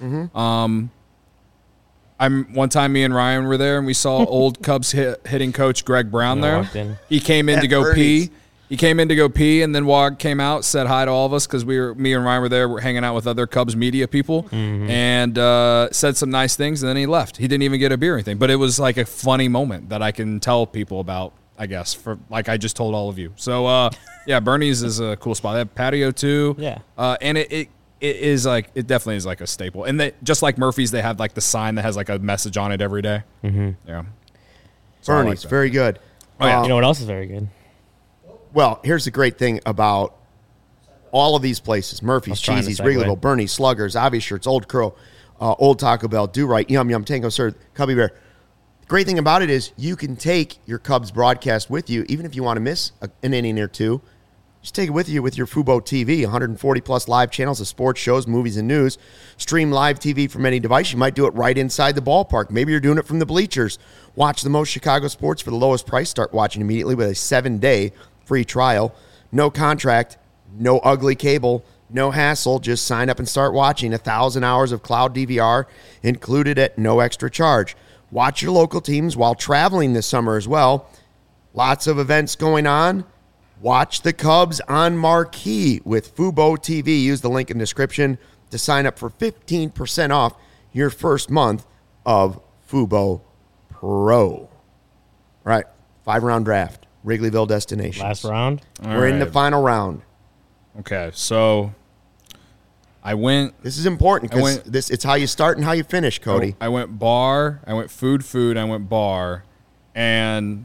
One time me and Ryan were there and we saw old Cubs hitting coach Greg Brown there. walked in. He came in At to go Bernie's. pee. He came in to go pee and then came out, said hi to all of us because me and Ryan were there. We're hanging out with other Cubs media people and said some nice things, and then he left. He didn't even get a beer or anything, but it was like a funny moment that I can tell people about, I guess, for like I just told all of you. So yeah, Bernie's is a cool spot. They have patio too. Yeah. And it is like, it definitely is like a staple. And they, just like Murphy's, they have like the sign that has like a message on it every day. Yeah. So I like Bernie's, that. very good. Oh, yeah. You know what else is very good? Well, here's the great thing about all of these places: Murphy's, trying to Cheesy's, segue. Wrigleyville, Bernie's, Sluggers, Obvious Shirts, Old Crow, Old Taco Bell, Do Right, Yum Yum, Tango Sir, Cubby Bear. The great thing about it is you can take your Cubs broadcast with you, even if you want to miss an inning or two. Just take it with you with your Fubo TV. 140-plus live channels of sports, shows, movies, and news. Stream live TV from any device. You might do it right inside the ballpark. Maybe you're doing it from the bleachers. Watch the most Chicago sports for the lowest price. Start watching immediately with a 7-day free trial. No contract, no ugly cable, no hassle. Just sign up and start watching. 1,000 hours of cloud DVR included at no extra charge. Watch your local teams while traveling this summer as well. Lots of events going on. Watch the Cubs on Marquee with Fubo TV. Use the link in the description to sign up for 15% off your first month of Fubo Pro. All right, 5-round draft, Wrigleyville destination. Last round? We're in the final round. Okay, so I went. This is important because it's how you start and how you finish, Cody. I went bar, I went food, I went bar, and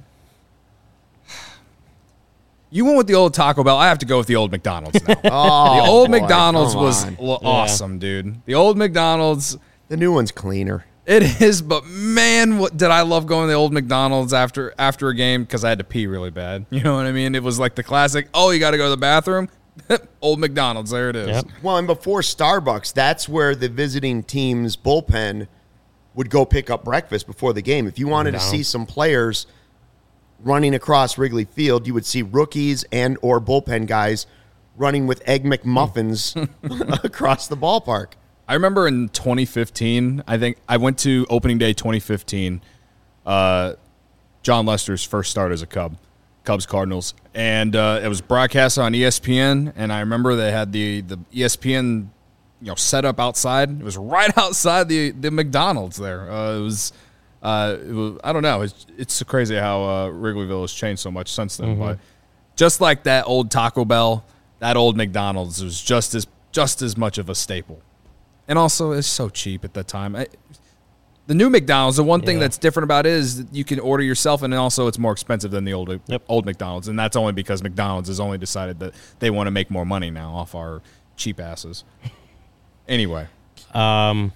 you went with the old Taco Bell. I have to go with the old McDonald's now. The old McDonald's was awesome, dude. The old McDonald's. The new one's cleaner. It is, but man, what did I love going to the old McDonald's after a game because I had to pee really bad. You know what I mean? It was like the classic, oh, you got to go to the bathroom? Old McDonald's, there it is. Yep. Well, and before Starbucks, that's where the visiting team's bullpen would go pick up breakfast before the game. If you wanted to see some players running across Wrigley Field, you would see rookies and or bullpen guys running with Egg McMuffins across the ballpark. I remember in 2015, I think I went to opening day 2015, John Lester's first start as a Cubs Cardinals, and it was broadcast on ESPN, and I remember they had the ESPN set up outside. It was right outside the McDonald's there. It was I don't know. It's so crazy how Wrigleyville has changed so much since then. But just like that old Taco Bell, that old McDonald's was just as much of a staple. And also, it's so cheap at that time. The new McDonald's, the one thing that's different about it is that you can order yourself, and also it's more expensive than the old McDonald's. And that's only because McDonald's has only decided that they want to make more money now off our cheap asses. Anyway. I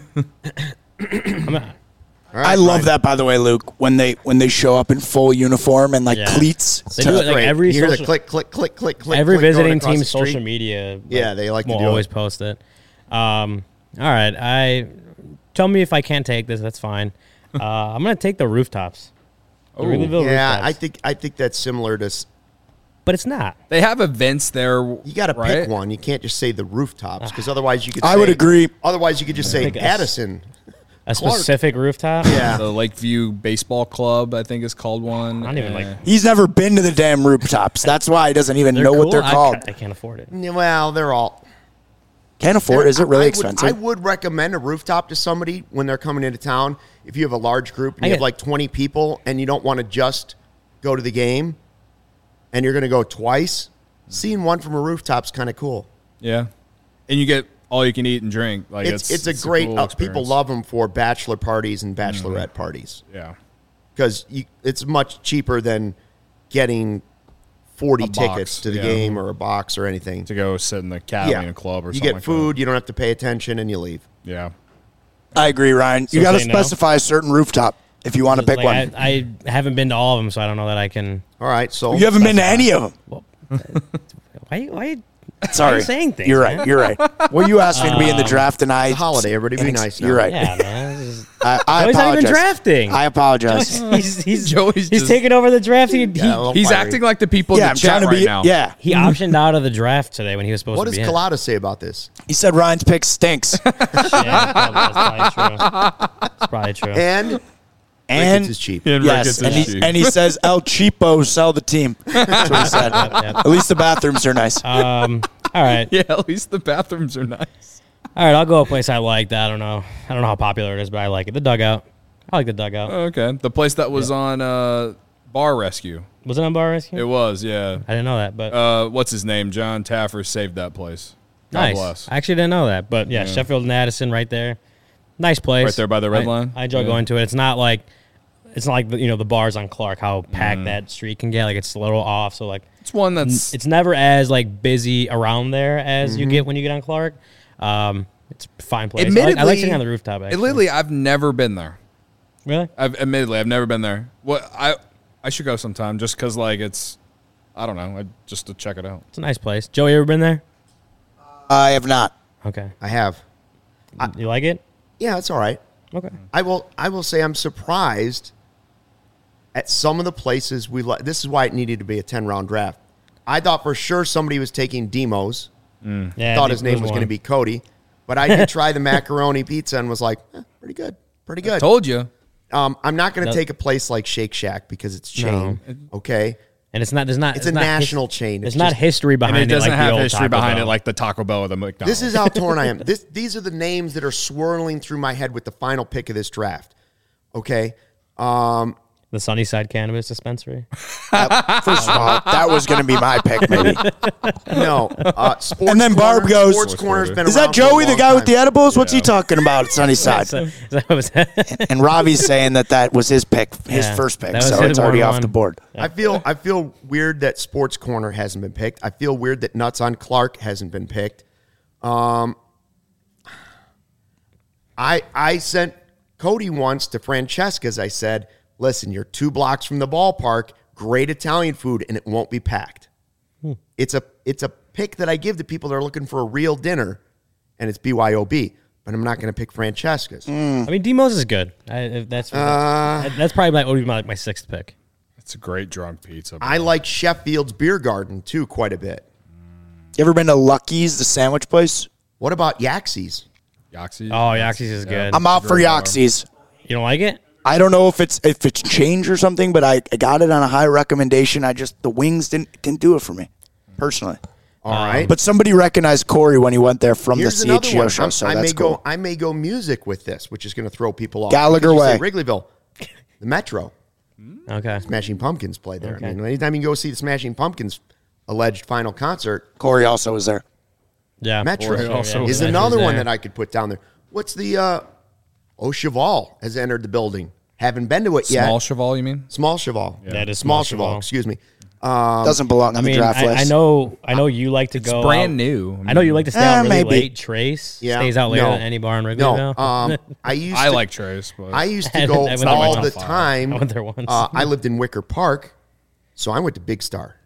love that, by the way, Luke, when they show up in full uniform and cleats. They do it like every you hear the click. Every click visiting team's social media. They like to do always it. post it. All right, tell me if I can't take this. That's fine. I'm gonna take the rooftops. The Wrigleyville rooftops. I think that's similar to. But it's not. They have events there. You got to pick one. You can't just say the rooftops because otherwise you could. I would agree. Otherwise, you could just say Addison. A specific rooftop? Yeah. The Lakeview Baseball Club, I think, is called one. I don't even like. He's never been to the damn rooftops. That's why he doesn't even know what they're called. I can't afford it. Well, they're all. Can't afford. Is it really expensive? I would recommend a rooftop to somebody when they're coming into town. If you have a large group and you have like 20 people and you don't want to just go to the game and you're going to go twice, seeing one from a rooftop's kind of cool. Yeah. And you get all you can eat and drink. Like it's a great cool people love them for bachelor parties and bachelorette parties. Yeah. Because it's much cheaper than getting 40 tickets to the game or a box or anything. To go sit in the cabin in a club or something. You get food, you don't have to pay attention, and you leave. Yeah. I agree, Ryan. You got to specify a certain rooftop if you want to pick one. I haven't been to all of them, so I don't know that I can. All right, so you haven't been to any of them. Well, why Sorry, are you saying things? You're right. You're right. Well, you asked me to be in the draft, and it's a holiday. Everybody be nice now. You're right. Yeah, man. I apologize. Not even drafting. I apologize. He's taking over the draft. He's acting like the people in the chat right now. Yeah. He optioned out of the draft today when he was supposed to be. What does Collada say about this? He said Ryan's pick stinks. That's probably true. And Ricketts is cheap. Yes, and he says El Cheapo sell the team. That's what he said. Yep. At least the bathrooms are nice. All right. Yeah, at least the bathrooms are nice. All right, I'll go a place I like. I don't know how popular it is, but I like it. The Dugout. I like the Dugout. Oh, okay. The place that was on Bar Rescue. Was it on Bar Rescue? It was, yeah. I didn't know that, but what's his name? John Taffer saved that place. God nice. Bless. I actually didn't know that, but yeah, Sheffield and Addison right there. Nice place. Right there by the red line. I enjoy going to it. It's not like the bars on Clark, how packed that street can get. Like it's a little off, so like it's one that's it's never as like busy around there as you get when you get on Clark. It's a fine place. Admittedly, I like sitting on the rooftop. Actually. Admittedly, I've never been there. Really? I've never been there. What I should go sometime just because like it's I don't know. Just to check it out. It's a nice place. Joey, you ever been there? I have not. Okay. I have. You like it? Yeah, it's all right. Okay. I will say I'm surprised at some of the places we like. This is why it needed to be a 10-round draft. I thought for sure somebody was taking Demos. Yeah, Thought his name was going to be Cody. But I did try the macaroni pizza and was like, pretty good. Pretty good. Told you. I'm not going to take a place like Shake Shack because it's chain. Okay. And it's not. There's not. It's a national chain. There's not history behind it. And it doesn't like have the old history Taco behind Bell. it like the Taco Bell or the McDonald's. This is how torn I am. These are the names that are swirling through my head with the final pick of this draft. Okay. The Sunnyside Cannabis Dispensary. First of all, that was going to be my pick, maybe. No. Sports And then Barb Corner. goes, Sports Corner's been Is around that for a Joey, the long guy with time. the edibles? What's he talking about at Sunnyside? And Robbie's saying that was his pick, his Yeah, first pick, that was so his it's already one off one. the board. I feel weird that Sports Corner hasn't been picked. I feel weird that Nuts on Clark hasn't been picked. I sent Cody once to Francesca's. I said, listen, you're 2 blocks from the ballpark, great Italian food, and it won't be packed. It's a pick that I give to people that are looking for a real dinner, and it's BYOB. But I'm not going to pick Francesca's. I mean, Demos is good. That's probably would be my 6th pick. It's a great drunk pizza. I like Sheffield's Beer Garden, too, quite a bit. You ever been to Lucky's, the sandwich place? What about Yaxie's? Yaxie. Oh, Yaxie's is good. I'm out for Yaxie's. You don't like it? I don't know if it's changed or something, but I got it on a high recommendation. The wings didn't do it for me, personally. All right. But somebody recognized Corey when he went there from Here's the another CHGO one. show, so that's cool. I may go music with this, which is going to throw people off. Gallagher Because you say Way. Wrigleyville. The Metro. Okay. Smashing Pumpkins play there. Okay. I mean, anytime you go see the Smashing Pumpkins alleged final concert, Corey also was there. Yeah. Metro Corey also is was another one there. that I could put down there. What's the Cheval has entered the building. Haven't been to it yet. Small Cheval, you mean? Small Cheval. That is Small Small Cheval. Cheval. Excuse me. Doesn't belong on I the mean, draft list. I know you like to It's go brand out- new. I know you like to stay out really maybe. late. Trace stays out later No. than any bar in Wrigleyville. No. I like Trace, but I used I to go went there all once. the time. I went there once. I lived in Wicker Park, so I went to Big Star.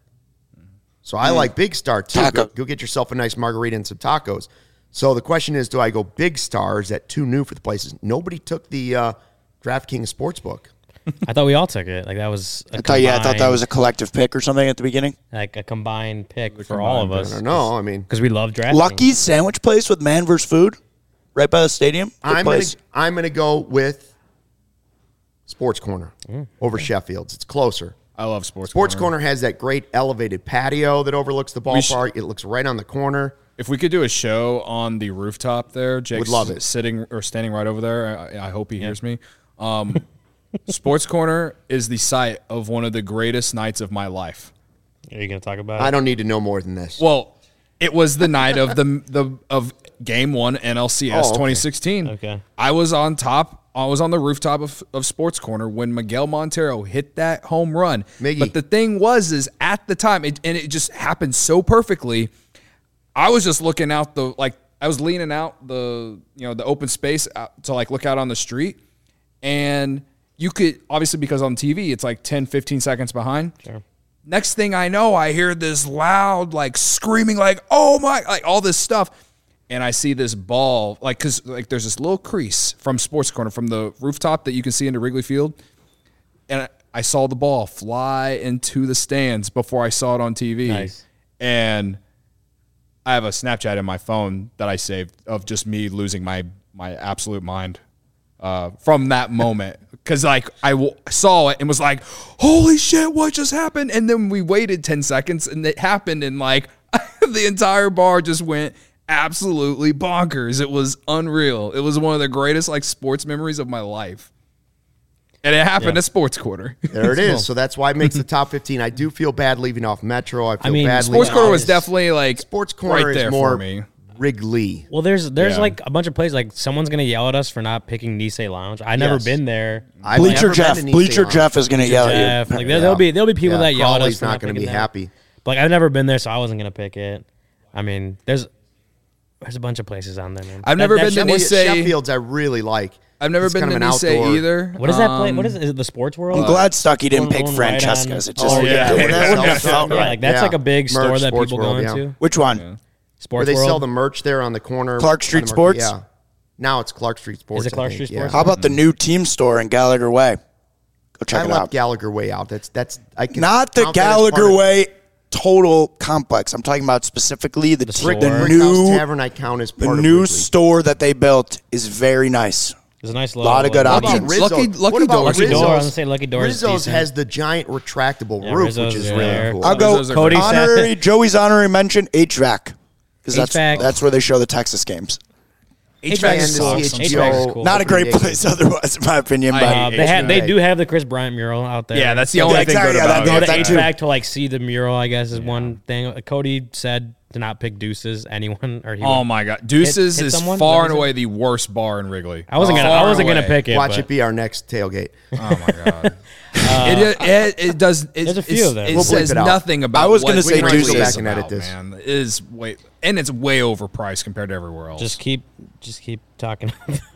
So I like Big Star too. Taco. Go get yourself a nice margarita and some tacos. So the question is, do I go Big Star? Or is that too new for the places? Nobody took the DraftKings Sportsbook. I thought we all took it. Like that was. I thought that was a collective pick or something at the beginning. like a combined pick for all of I us. don't know. I mean, because we love drafting. Lucky's sandwich place with Man vs. Food, right by the stadium. Good place. I'm gonna go with Sports Corner over Sheffield's. It's closer. I love Sports Corner has that great elevated patio that overlooks the ballpark. It looks right on the corner. If we could do a show on the rooftop there, Jake's Would love it. sitting or standing right over there. I hope he hears me. Sports Corner is the site of one of the greatest nights of my life. Are you going to talk about I it? don't need to know more than this. Well, it was the night of of Game 1 NLCS Oh, okay. 2016. Okay. I was on top. I was on the rooftop of Sports Corner when Miguel Montero hit that home run. Miggy. But the thing is at the time, and it just happened so perfectly. I was just looking out I was leaning out the open space out to look out on the street, and you could obviously, because on TV it's 10, 15 seconds behind. Sure. Next thing I know, I hear this loud screaming oh my, all this stuff. And I see this ball, because there's this little crease from Sports Corner, from the rooftop that you can see into Wrigley Field. And I saw the ball fly into the stands before I saw it on TV. Nice. And I have a Snapchat in my phone that I saved of just me losing my absolute mind from that moment. Because saw it and was like, holy shit, what just happened? And then we waited 10 seconds and it happened, and the entire bar just went absolutely bonkers. It was unreal. It was one of the greatest sports memories of my life. And it happened at Sports Corner. There it is. So that's why it makes the top 15. I do feel bad leaving off Metro. I feel bad Sports leaving Corner off- was definitely Sports Corner right there is more for me. Wrigley. Well, there's Yeah. a bunch of places someone's gonna yell at us for not picking Nisei Lounge. I've never Yes. been there. I've Bleacher never Jeff. been to Bleacher Nissan. Jeff is going to yell at Jeff, you. there'll be people that yell at us. Crawley's for not going to picking be that. happy. But I've never been there, so I wasn't gonna pick it. I mean, there's a bunch of places on there, man. I've never been to Sheffield- Nisei. Sheffield's I really like. I've never been to Nice either. What is that place? What is it? Is it the Sports World? I'm glad Stuckey didn't pick Francesca's. It just that wouldn't have felt right. Like that's like a big store that people go into. Which one? Sports Where they World? sell the merch there on the corner. Clark Street Sports? Yeah. Now it's Clark Street Sports. Is it Clark Street Sports? How about the new team store in Gallagher Way? Go check it out. I left Gallagher Way out. That's I can not the Gallagher Way total complex. I'm talking about specifically the new Tavern. I count as part the new store that they built is very nice. There's a nice lot of good options. Lucky Door. I was going to say Lucky Door. Rizzo's has the giant retractable roof, which is really cool. I'll go Joey's honorary mention, HVAC. Because that's where they show the Texas games. HVAC is cool. Not a great place otherwise, in my opinion. But they do have the Chris Bryant mural out there. Yeah, that's the only thing good about it. Go to HVAC to like see the mural, I guess, is one thing. Cody said to not pick Deuces, anyone. Oh my God, Deuces is far and away the worst bar in Wrigley. I wasn't gonna pick it. Watch it be our next tailgate. Oh my God. It does. There's a few of them. It says nothing about. I was going to say Deuces. Go back and edit this. Man, it is way, and it's way overpriced compared to everywhere else. Just keep talking.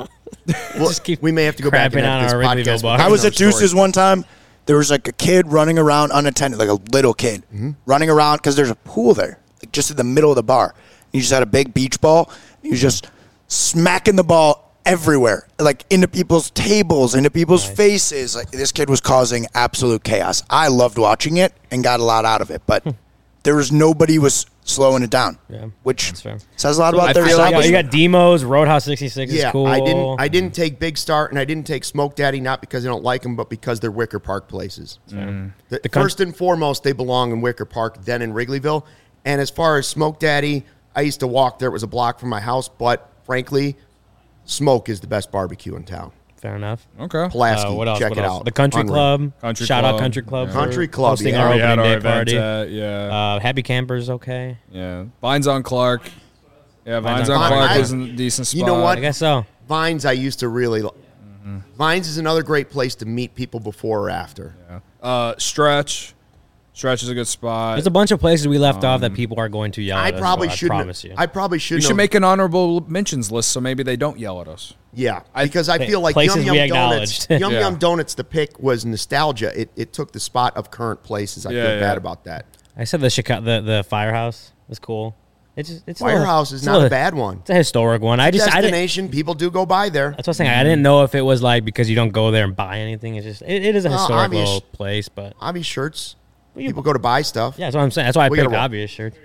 We may have to go back and edit this podcast. I was at Deuces one time. There was like a kid running around unattended, like a little kid running around because there's a pool there, like just in the middle of the bar. He just had a big beach ball. He was just smacking the ball everywhere, like into people's tables, into people's faces. Like this kid was causing absolute chaos. I loved watching it and got a lot out of it, but there was nobody was slowing it down, which says a lot about their establishment. You got Demos, Roadhouse 66 is cool. I didn't take Big Start and I didn't take Smoke Daddy, not because I don't like them, but because they're Wicker Park places. First and foremost, they belong in Wicker Park, then in Wrigleyville. And as far as Smoke Daddy, I used to walk there. It was a block from my house, but frankly, Smoke is the best barbecue in town. Fair enough. Okay. Pulaski, what else? check it out. The Country Club. Shout out Country Club. Country Club, hosting our opening day party. Yeah. Happy Campers, okay. Yeah. Vines on Clark. Yeah, Vines on Clark is a decent spot. You know what? I guess so. Vines, I used to really. Vines is another great place to meet people before or after. Yeah. Stretch is a good spot. There's a bunch of places we left off that people are going to yell at us. I promise you. I probably should. We should make an honorable mentions list so maybe they don't yell at us. Yeah, because I feel like Yum Yum Donuts. Yum Donuts, the pick was nostalgia. It took the spot of current places. I feel bad about that. I said the Firehouse was cool. It's Firehouse is not a bad one. It's a historic one. Destination. People do go by there. That's what I'm saying. I didn't know if it was like because you don't go there and buy anything. It's just it is a historic little place, but obvious shirts. People go to buy stuff. Yeah, that's what I'm saying. That's why I picked obvious shirts.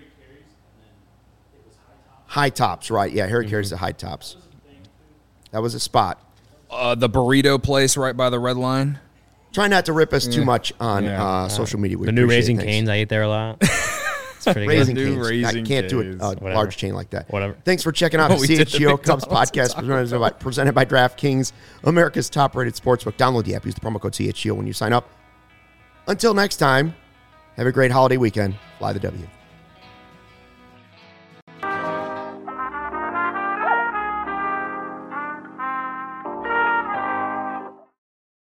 High Tops, right? Yeah, Harry carries the High Tops. That was a spot. The burrito place right by the Red Line. Try not to rip us too much on social media. The new Raising Cane's, I ate there a lot. It's pretty Raising good. Cane's. I can't do a large chain like that. Whatever. Thanks for checking out the CHGO Cubs podcast presented by DraftKings, America's top-rated sportsbook. Download the app. Use the promo code CHGO when you sign up. Until next time, have a great holiday weekend. Fly the W.